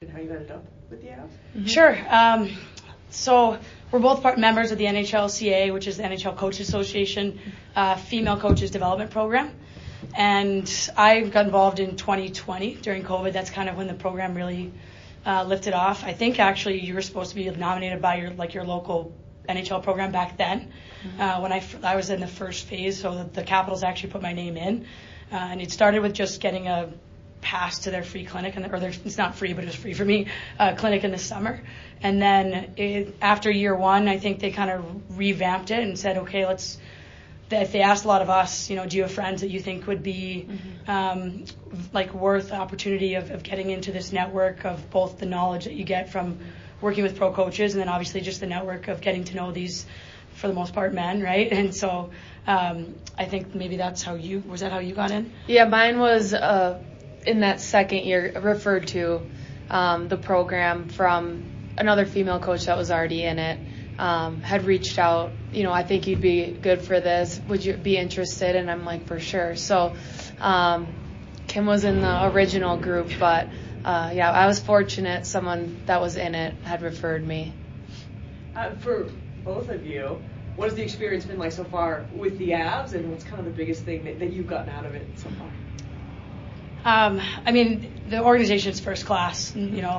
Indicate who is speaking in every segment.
Speaker 1: how you ended up with the Avs?
Speaker 2: Mm-hmm. Sure. So we're both members of the NHLCA, which is the NHL Coaches Association Female Coaches Development Program. And I got involved in 2020 during COVID. That's kind of when the program really lifted off. I think actually you were supposed to be nominated by your local NHL program back then. Mm-hmm. When I was in the first phase, so the Capitals actually put my name in. And it started with just getting a pass to their free clinic, it's not free, but it was free for me, clinic in the summer. And then after year one, I think they kind of revamped it and said, okay, if they asked a lot of us, do you have friends that you think would be worth the opportunity of getting into this network of both the knowledge that you get from working with pro coaches and then obviously just the network of getting to know these, for the most part, men, right? And so I think maybe was that how you got in?
Speaker 3: Yeah, mine was in that second year referred to the program from another female coach that was already in it. Had reached out, I think you'd be good for this. Would you be interested? And I'm like, for sure. So Kim was in the original group, but I was fortunate someone that was in it had referred me.
Speaker 1: For both of you, what has the experience been like so far with the Avs, and what's kind of the biggest thing that you've gotten out of it so far?
Speaker 2: The organization is first class.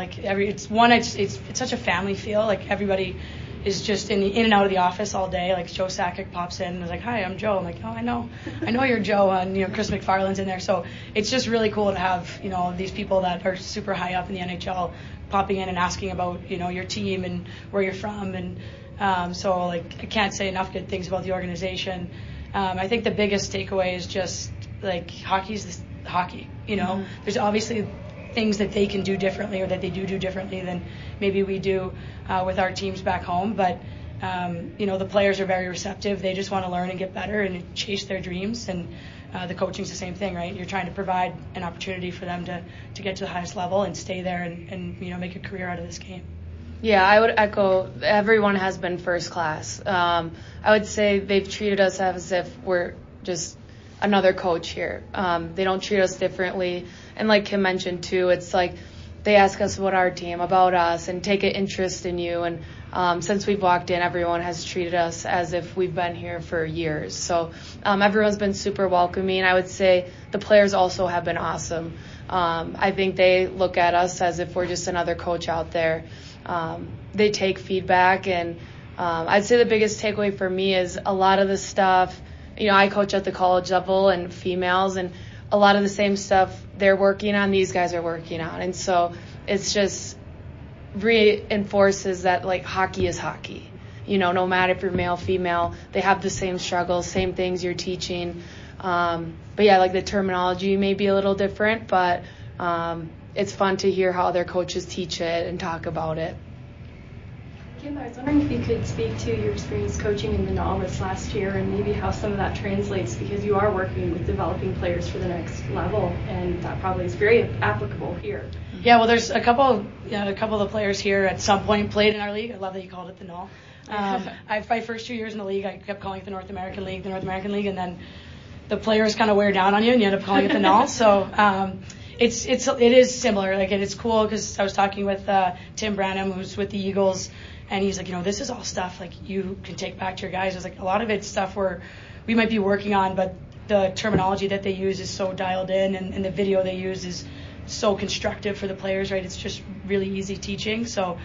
Speaker 2: It's such a family feel. Like everybody is just in and out of the office all day. Like Joe Sakic pops in and is like, "Hi, I'm Joe." I'm like, "Oh, I know you're Joe." And Chris McFarland's in there. So it's just really cool to have these people that are super high up in the NHL popping in and asking about your team and where you're from. And so I can't say enough good things about the organization. I think the biggest takeaway is just hockey's hockey.
Speaker 3: Mm-hmm.
Speaker 2: There's obviously things that they can do differently or that they do differently than maybe we do with our teams back home. But, the players are very receptive. They just want to learn and get better and chase their dreams. And the coaching's the same thing, right? You're trying to provide an opportunity for them to get to the highest level and stay there and make a career out of this game.
Speaker 3: Yeah, I would echo everyone has been first class. I would say they've treated us as if we're just another coach here. They don't treat us differently. And like Kim mentioned too, it's like they ask us about our team, about us, and take an interest in you. And since we've walked in, everyone has treated us as if we've been here for years. So everyone's been super welcoming. I would say the players also have been awesome. I think they look at us as if we're just another coach out there. They take feedback, and I'd say the biggest takeaway for me is a lot of the stuff. I coach at the college level and females, and a lot of the same stuff they're working on, these guys are working on. And so it's just reinforces that, hockey is hockey. No matter if you're male, female, they have the same struggles, same things you're teaching. But yeah, the terminology may be a little different, but it's fun to hear how other coaches teach it and talk about it.
Speaker 4: Kim, I was wondering if you could speak to your experience coaching in the Null this last year and maybe how some of that translates, because you are working with developing players for the next level, and that probably is very applicable here.
Speaker 2: Yeah, well, there's a couple of the players here at some point played in our league. I love that you called it the Null. My first 2 years in the league, I kept calling it the North American League, and then the players kind of wear down on you, and you end up calling it the Null. So it is similar. And it's cool because I was talking with Tim Branham, who's with the Eagles. And he's like, this is all stuff you can take back to your guys. It's a lot of it's stuff where we might be working on, but the terminology that they use is so dialed in, and the video they use is so constructive for the players, right? It's just really easy teaching. So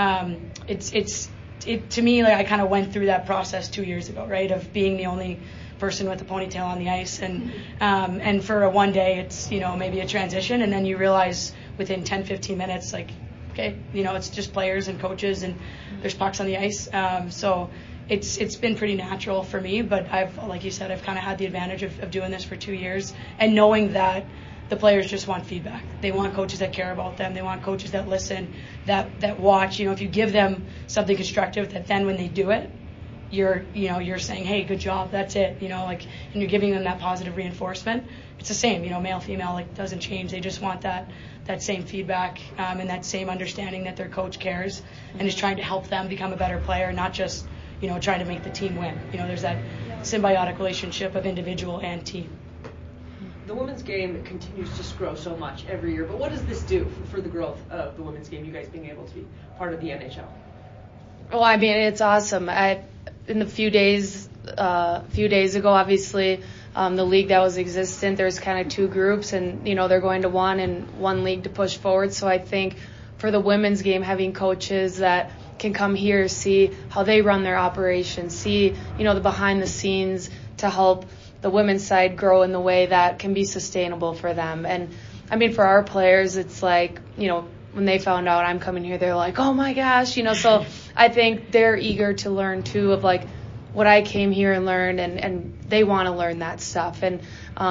Speaker 2: it to me, I kind of went through that process 2 years ago, right, of being the only person with a ponytail on the ice, and for a one day it's maybe a transition, and then you realize within 10-15 minutes okay, it's just players and coaches, and there's pucks on the ice. So it's been pretty natural for me, but like you said, I've kind of had the advantage of doing this for 2 years and knowing that the players just want feedback. They want coaches that care about them. They want coaches that listen, that watch. If you give them something constructive, that then when they do it, you're saying, hey, good job, that's it, and you're giving them that positive reinforcement. It's the same, male, female, doesn't change. They just want that same feedback and that same understanding that their coach cares and is trying to help them become a better player, not just, trying to make the team win. There's that symbiotic relationship of individual and team.
Speaker 1: the women's game continues to grow so much every year, but what does this do for the growth of the women's game, you guys being able to be part of the NHL?
Speaker 3: Well, I mean, it's awesome. In the few days ago, obviously, the league that was existent, there's kind of two groups, and, they're going to one league to push forward. So I think for the women's game, having coaches that can come here, see how they run their operations, see, the behind the scenes to help the women's side grow in the way that can be sustainable for them. And I mean, for our players, it's like, when they found out I'm coming here, they're like, oh my gosh, so I think they're eager to learn too of like what I came here and learned, and they want to learn that stuff. And,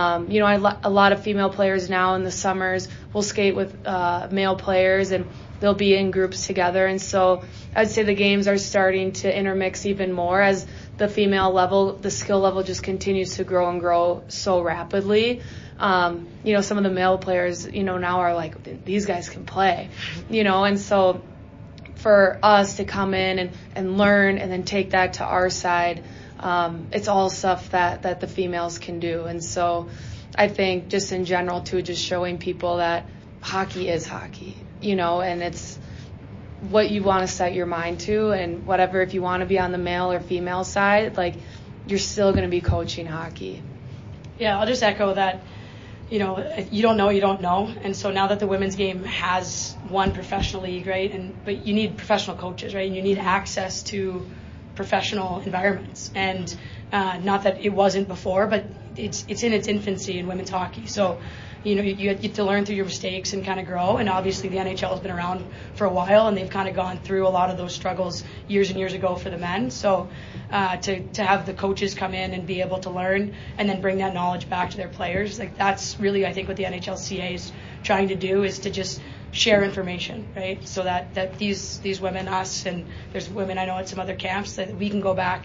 Speaker 3: a lot of female players now in the summers will skate with male players, and they'll be in groups together. And so I'd say the games are starting to intermix even more as the female level, the skill level just continues to grow and grow so rapidly. Some of the male players, now are like, these guys can play, and so for us to come in and learn and then take that to our side, it's all stuff that the females can do. And so I think just in general too, just showing people that hockey is hockey, and it's what you want to set your mind to, and whatever, if you want to be on the male or female side, like, you're still going to be coaching hockey.
Speaker 2: Yeah, I'll just echo that. You don't know. And so now that the women's game has one professional league, right, but you need professional coaches, right, and you need access to professional environments. And not that it wasn't before, but it's in its infancy in women's hockey. So, you get to learn through your mistakes and kind of grow. And obviously the NHL has been around for a while, and they've kind of gone through a lot of those struggles years and years ago for the men. So to have the coaches come in and be able to learn and then bring that knowledge back to their players, like, that's really, I think, what the NHLCA is trying to do, is to just share information, right? So that these women, us, and there's women I know at some other camps, that we can go back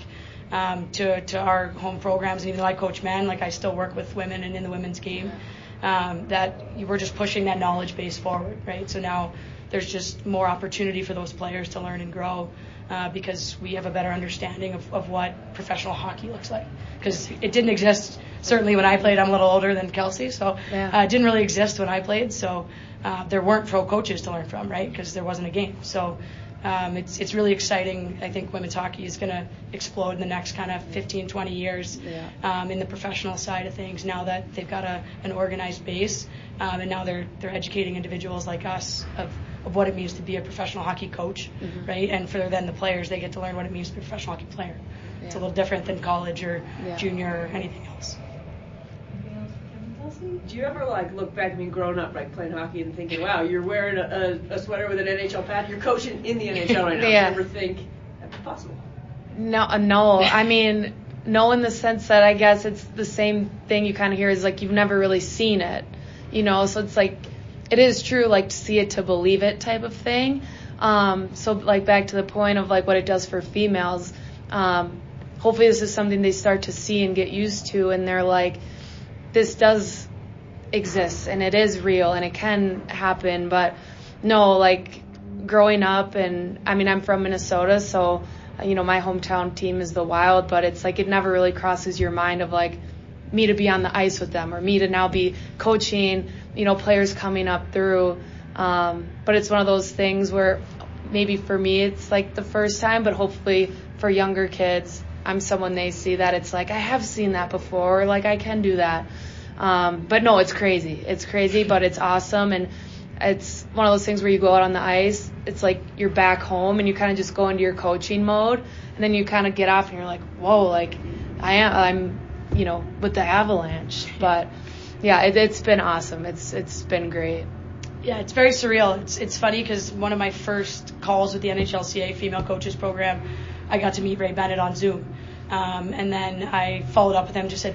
Speaker 2: to our home programs. And even though I coach men, like, I still work with women and in the women's game. That we're just pushing that knowledge base forward, right? So now there's just more opportunity for those players to learn and grow because we have a better understanding of what professional hockey looks like. Because it didn't exist, certainly when I played. I'm a little older than Kelsey, so it didn't really exist when I played. So there weren't pro coaches to learn from, right? Because there wasn't a game. So it's really exciting. I think women's hockey is going to explode in the next kind of 15, 20 years in the professional side of things, now that they've got an organized base, and now they're educating individuals like us of what it means to be a professional hockey coach, right? And for then the players, they get to learn what it means to be a professional hockey player. Yeah. It's a little different than college or junior or anything else.
Speaker 1: Do you ever look back, growing up, playing hockey and thinking, wow, you're wearing a sweater with an NHL pad, you're coaching in the NHL right now?
Speaker 3: Yeah.
Speaker 1: Do you ever think that's possible?
Speaker 3: No. I mean, no, in the sense that I guess it's the same thing you kind of hear is like you've never really seen it, so it's like it is true, like, to see it to believe it type of thing. So like back to the point of like what it does for females, hopefully this is something they start to see and get used to, and they're like, this does exist and it is real and it can happen. But no, like, growing up, and I mean, I'm from Minnesota, so my hometown team is the Wild, but it's like it never really crosses your mind of like me to be on the ice with them or me to now be coaching players coming up through, but it's one of those things where maybe for me it's like the first time, but hopefully for younger kids, I'm someone they see that it's like, I have seen that before, or like I can do that. But no, it's crazy, but it's awesome. And it's one of those things where you go out on the ice, it's like you're back home and you kind of just go into your coaching mode, and then you kind of get off and you're like, whoa, like I'm with the Avalanche. But yeah, it's been awesome. It's been great.
Speaker 2: Yeah, it's very surreal. It's funny because one of my first calls with the NHLCA female coaches program, I got to meet Ray Bennett on Zoom. And then I followed up with him, just said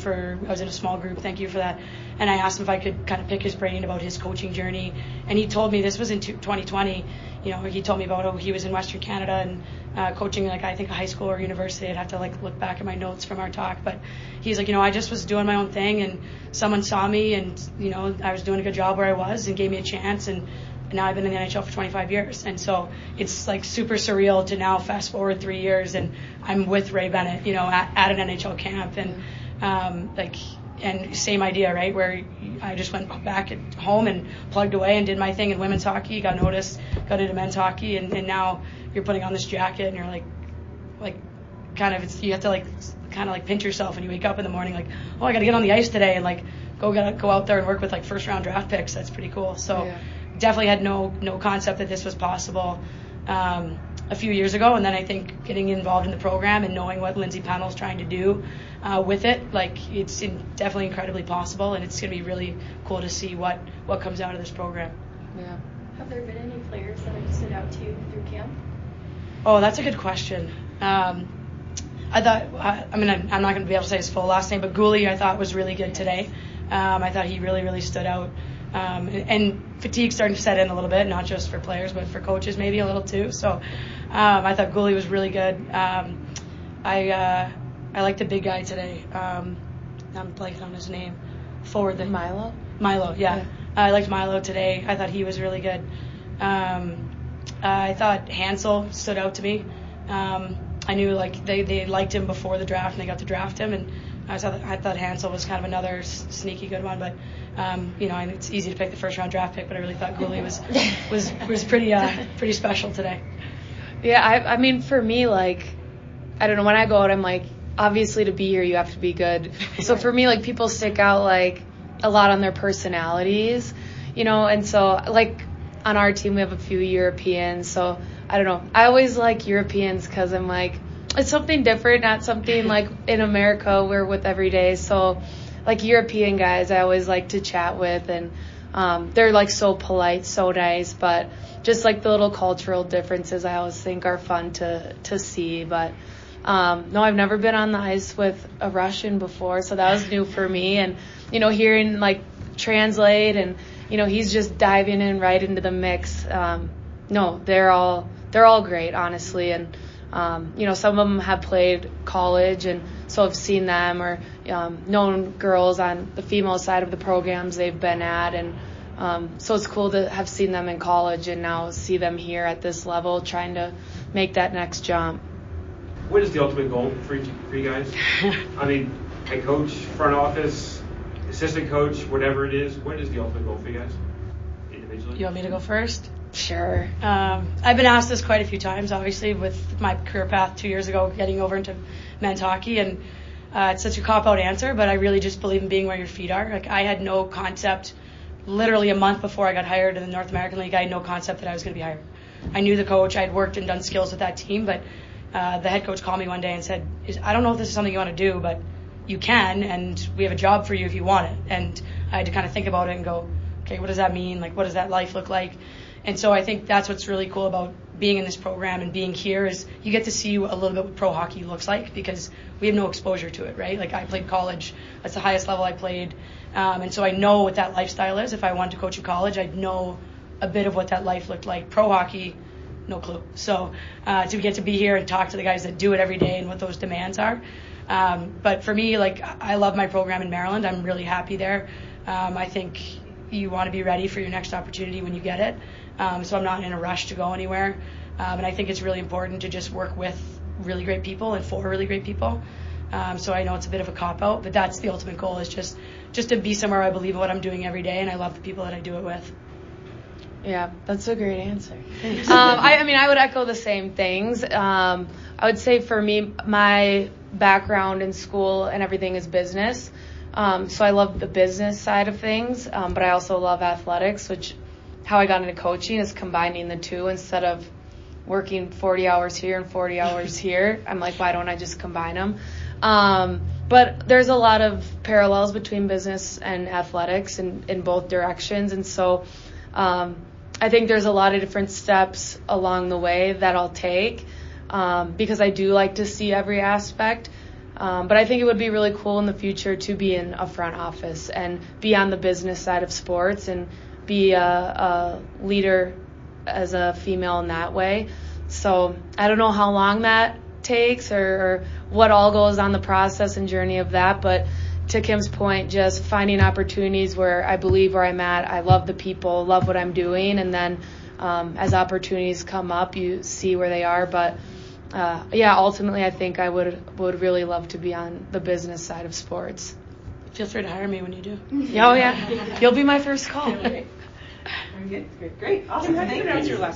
Speaker 2: I was in a small group, thank you for that. And I asked him if I could kind of pick his brain about his coaching journey. And he told me, this was in 2020, he told me about how he was in Western Canada and coaching, I think a high school or university. I'd have to look back at my notes from our talk. But he's like, I just was doing my own thing, and someone saw me, and, I was doing a good job where I was and gave me a chance. And now I've been in the NHL for 25 years. And so it's super surreal to now fast forward 3 years and I'm with Ray Bennett, at an NHL camp. And and same idea, right? Where I just went back at home and plugged away and did my thing in women's hockey, got noticed, got into men's hockey, and now you're putting on this jacket and you're like kind of, you have to kind of pinch yourself, and you wake up in the morning like, oh, I got to get on the ice today and go out there and work with first round draft picks. That's pretty cool. So definitely had no concept that this was possible a few years ago, and then I think getting involved in the program and knowing what Lindsay Pennell's trying to do with it, it's definitely incredibly possible, and it's going to be really cool to see what comes out of this program.
Speaker 3: Yeah.
Speaker 4: Have there been any players that have stood out to you through camp?
Speaker 2: Oh, that's a good question. I thought, I'm not going to be able to say his full last name, but Gooley I thought was really good today. I thought he really, really stood out. And fatigue starting to set in a little bit, not just for players, but for coaches maybe a little too. So I thought Gooley was really good. I liked the big guy today. I'm blanking on his name. Forward.
Speaker 3: Milo?
Speaker 2: Milo, yeah. I liked Milo today. I thought he was really good. I thought Hansel stood out to me. I knew they liked him before the draft and they got to draft him, and I thought Hansel was kind of another sneaky good one, but it's easy to pick the first round draft pick, but I really thought Gooley was pretty special today.
Speaker 3: Yeah, I mean for me, I don't know, when I go out I'm obviously to be here you have to be good. So for me people stick out a lot on their personalities, and so on our team we have a few Europeans, so I don't know. I always like Europeans because I'm it's something different, not something in America we're with every day. So European guys I always like to chat with, and they're so polite, so nice, but just the little cultural differences I always think are fun to see. But no, I've never been on the ice with a Russian before, so that was new for me. And hearing Translate, and he's just diving in right into the mix. No, they're all great, honestly, and some of them have played college, and so I've seen them or known girls on the female side of the programs they've been at, and so it's cool to have seen them in college and now see them here at this level trying to make that next jump.
Speaker 5: What is the ultimate goal for you guys? I mean, head coach, front office, assistant coach, whatever it is, what is the ultimate goal for you guys individually?
Speaker 2: You want me to go first?
Speaker 3: Sure.
Speaker 2: I've been asked this quite a few times, obviously, with my career path 2 years ago, getting over into men's hockey, and it's such a cop-out answer, but I really just believe in being where your feet are. I had no concept, literally a month before I got hired in the North American League, I had no concept that I was going to be hired. I knew the coach, I had worked and done skills with that team, but the head coach called me one day and said, I don't know if this is something you want to do, but you can, and we have a job for you if you want it. And I had to kind of think about it and go, okay, what does that mean? What does that life look like? And so I think that's what's really cool about being in this program and being here is you get to see a little bit what pro hockey looks like because we have no exposure to it, right? I played college. That's the highest level I played. And so I know what that lifestyle is. If I wanted to coach in college, I'd know a bit of what that life looked like. Pro hockey, no clue. So to get to be here and talk to the guys that do it every day and what those demands are. But for me, I love my program in Maryland. I'm really happy there. I think you want to be ready for your next opportunity when you get it. So I'm not in a rush to go anywhere. And I think it's really important to just work with really great people and for really great people. So I know it's a bit of a cop-out, but that's the ultimate goal is just to be somewhere I believe in what I'm doing every day, and I love the people that I do it with.
Speaker 3: Yeah, that's a great answer. I would echo the same things. I would say for me, my background in school and everything is business. So I love the business side of things, but I also love athletics, which how I got into coaching is combining the two instead of working 40 hours here and 40 hours here. I'm like, why don't I just combine them? But there's a lot of parallels between business and athletics in both directions. And so I think there's a lot of different steps along the way that I'll take because I do like to see every aspect. But I think it would be really cool in the future to be in a front office and be on the business side of sports and be a leader as a female in that way. So I don't know how long that takes or what all goes on the process and journey of that. But to Kim's point, just finding opportunities where I believe where I'm at, I love the people, love what I'm doing. And then as opportunities come up, you see where they are. But ultimately I think I would really love to be on the business side of sports.
Speaker 2: feel free to hire me when you do.
Speaker 3: Oh, yeah. You'll be my first call.
Speaker 1: Great. Awesome. Thank you.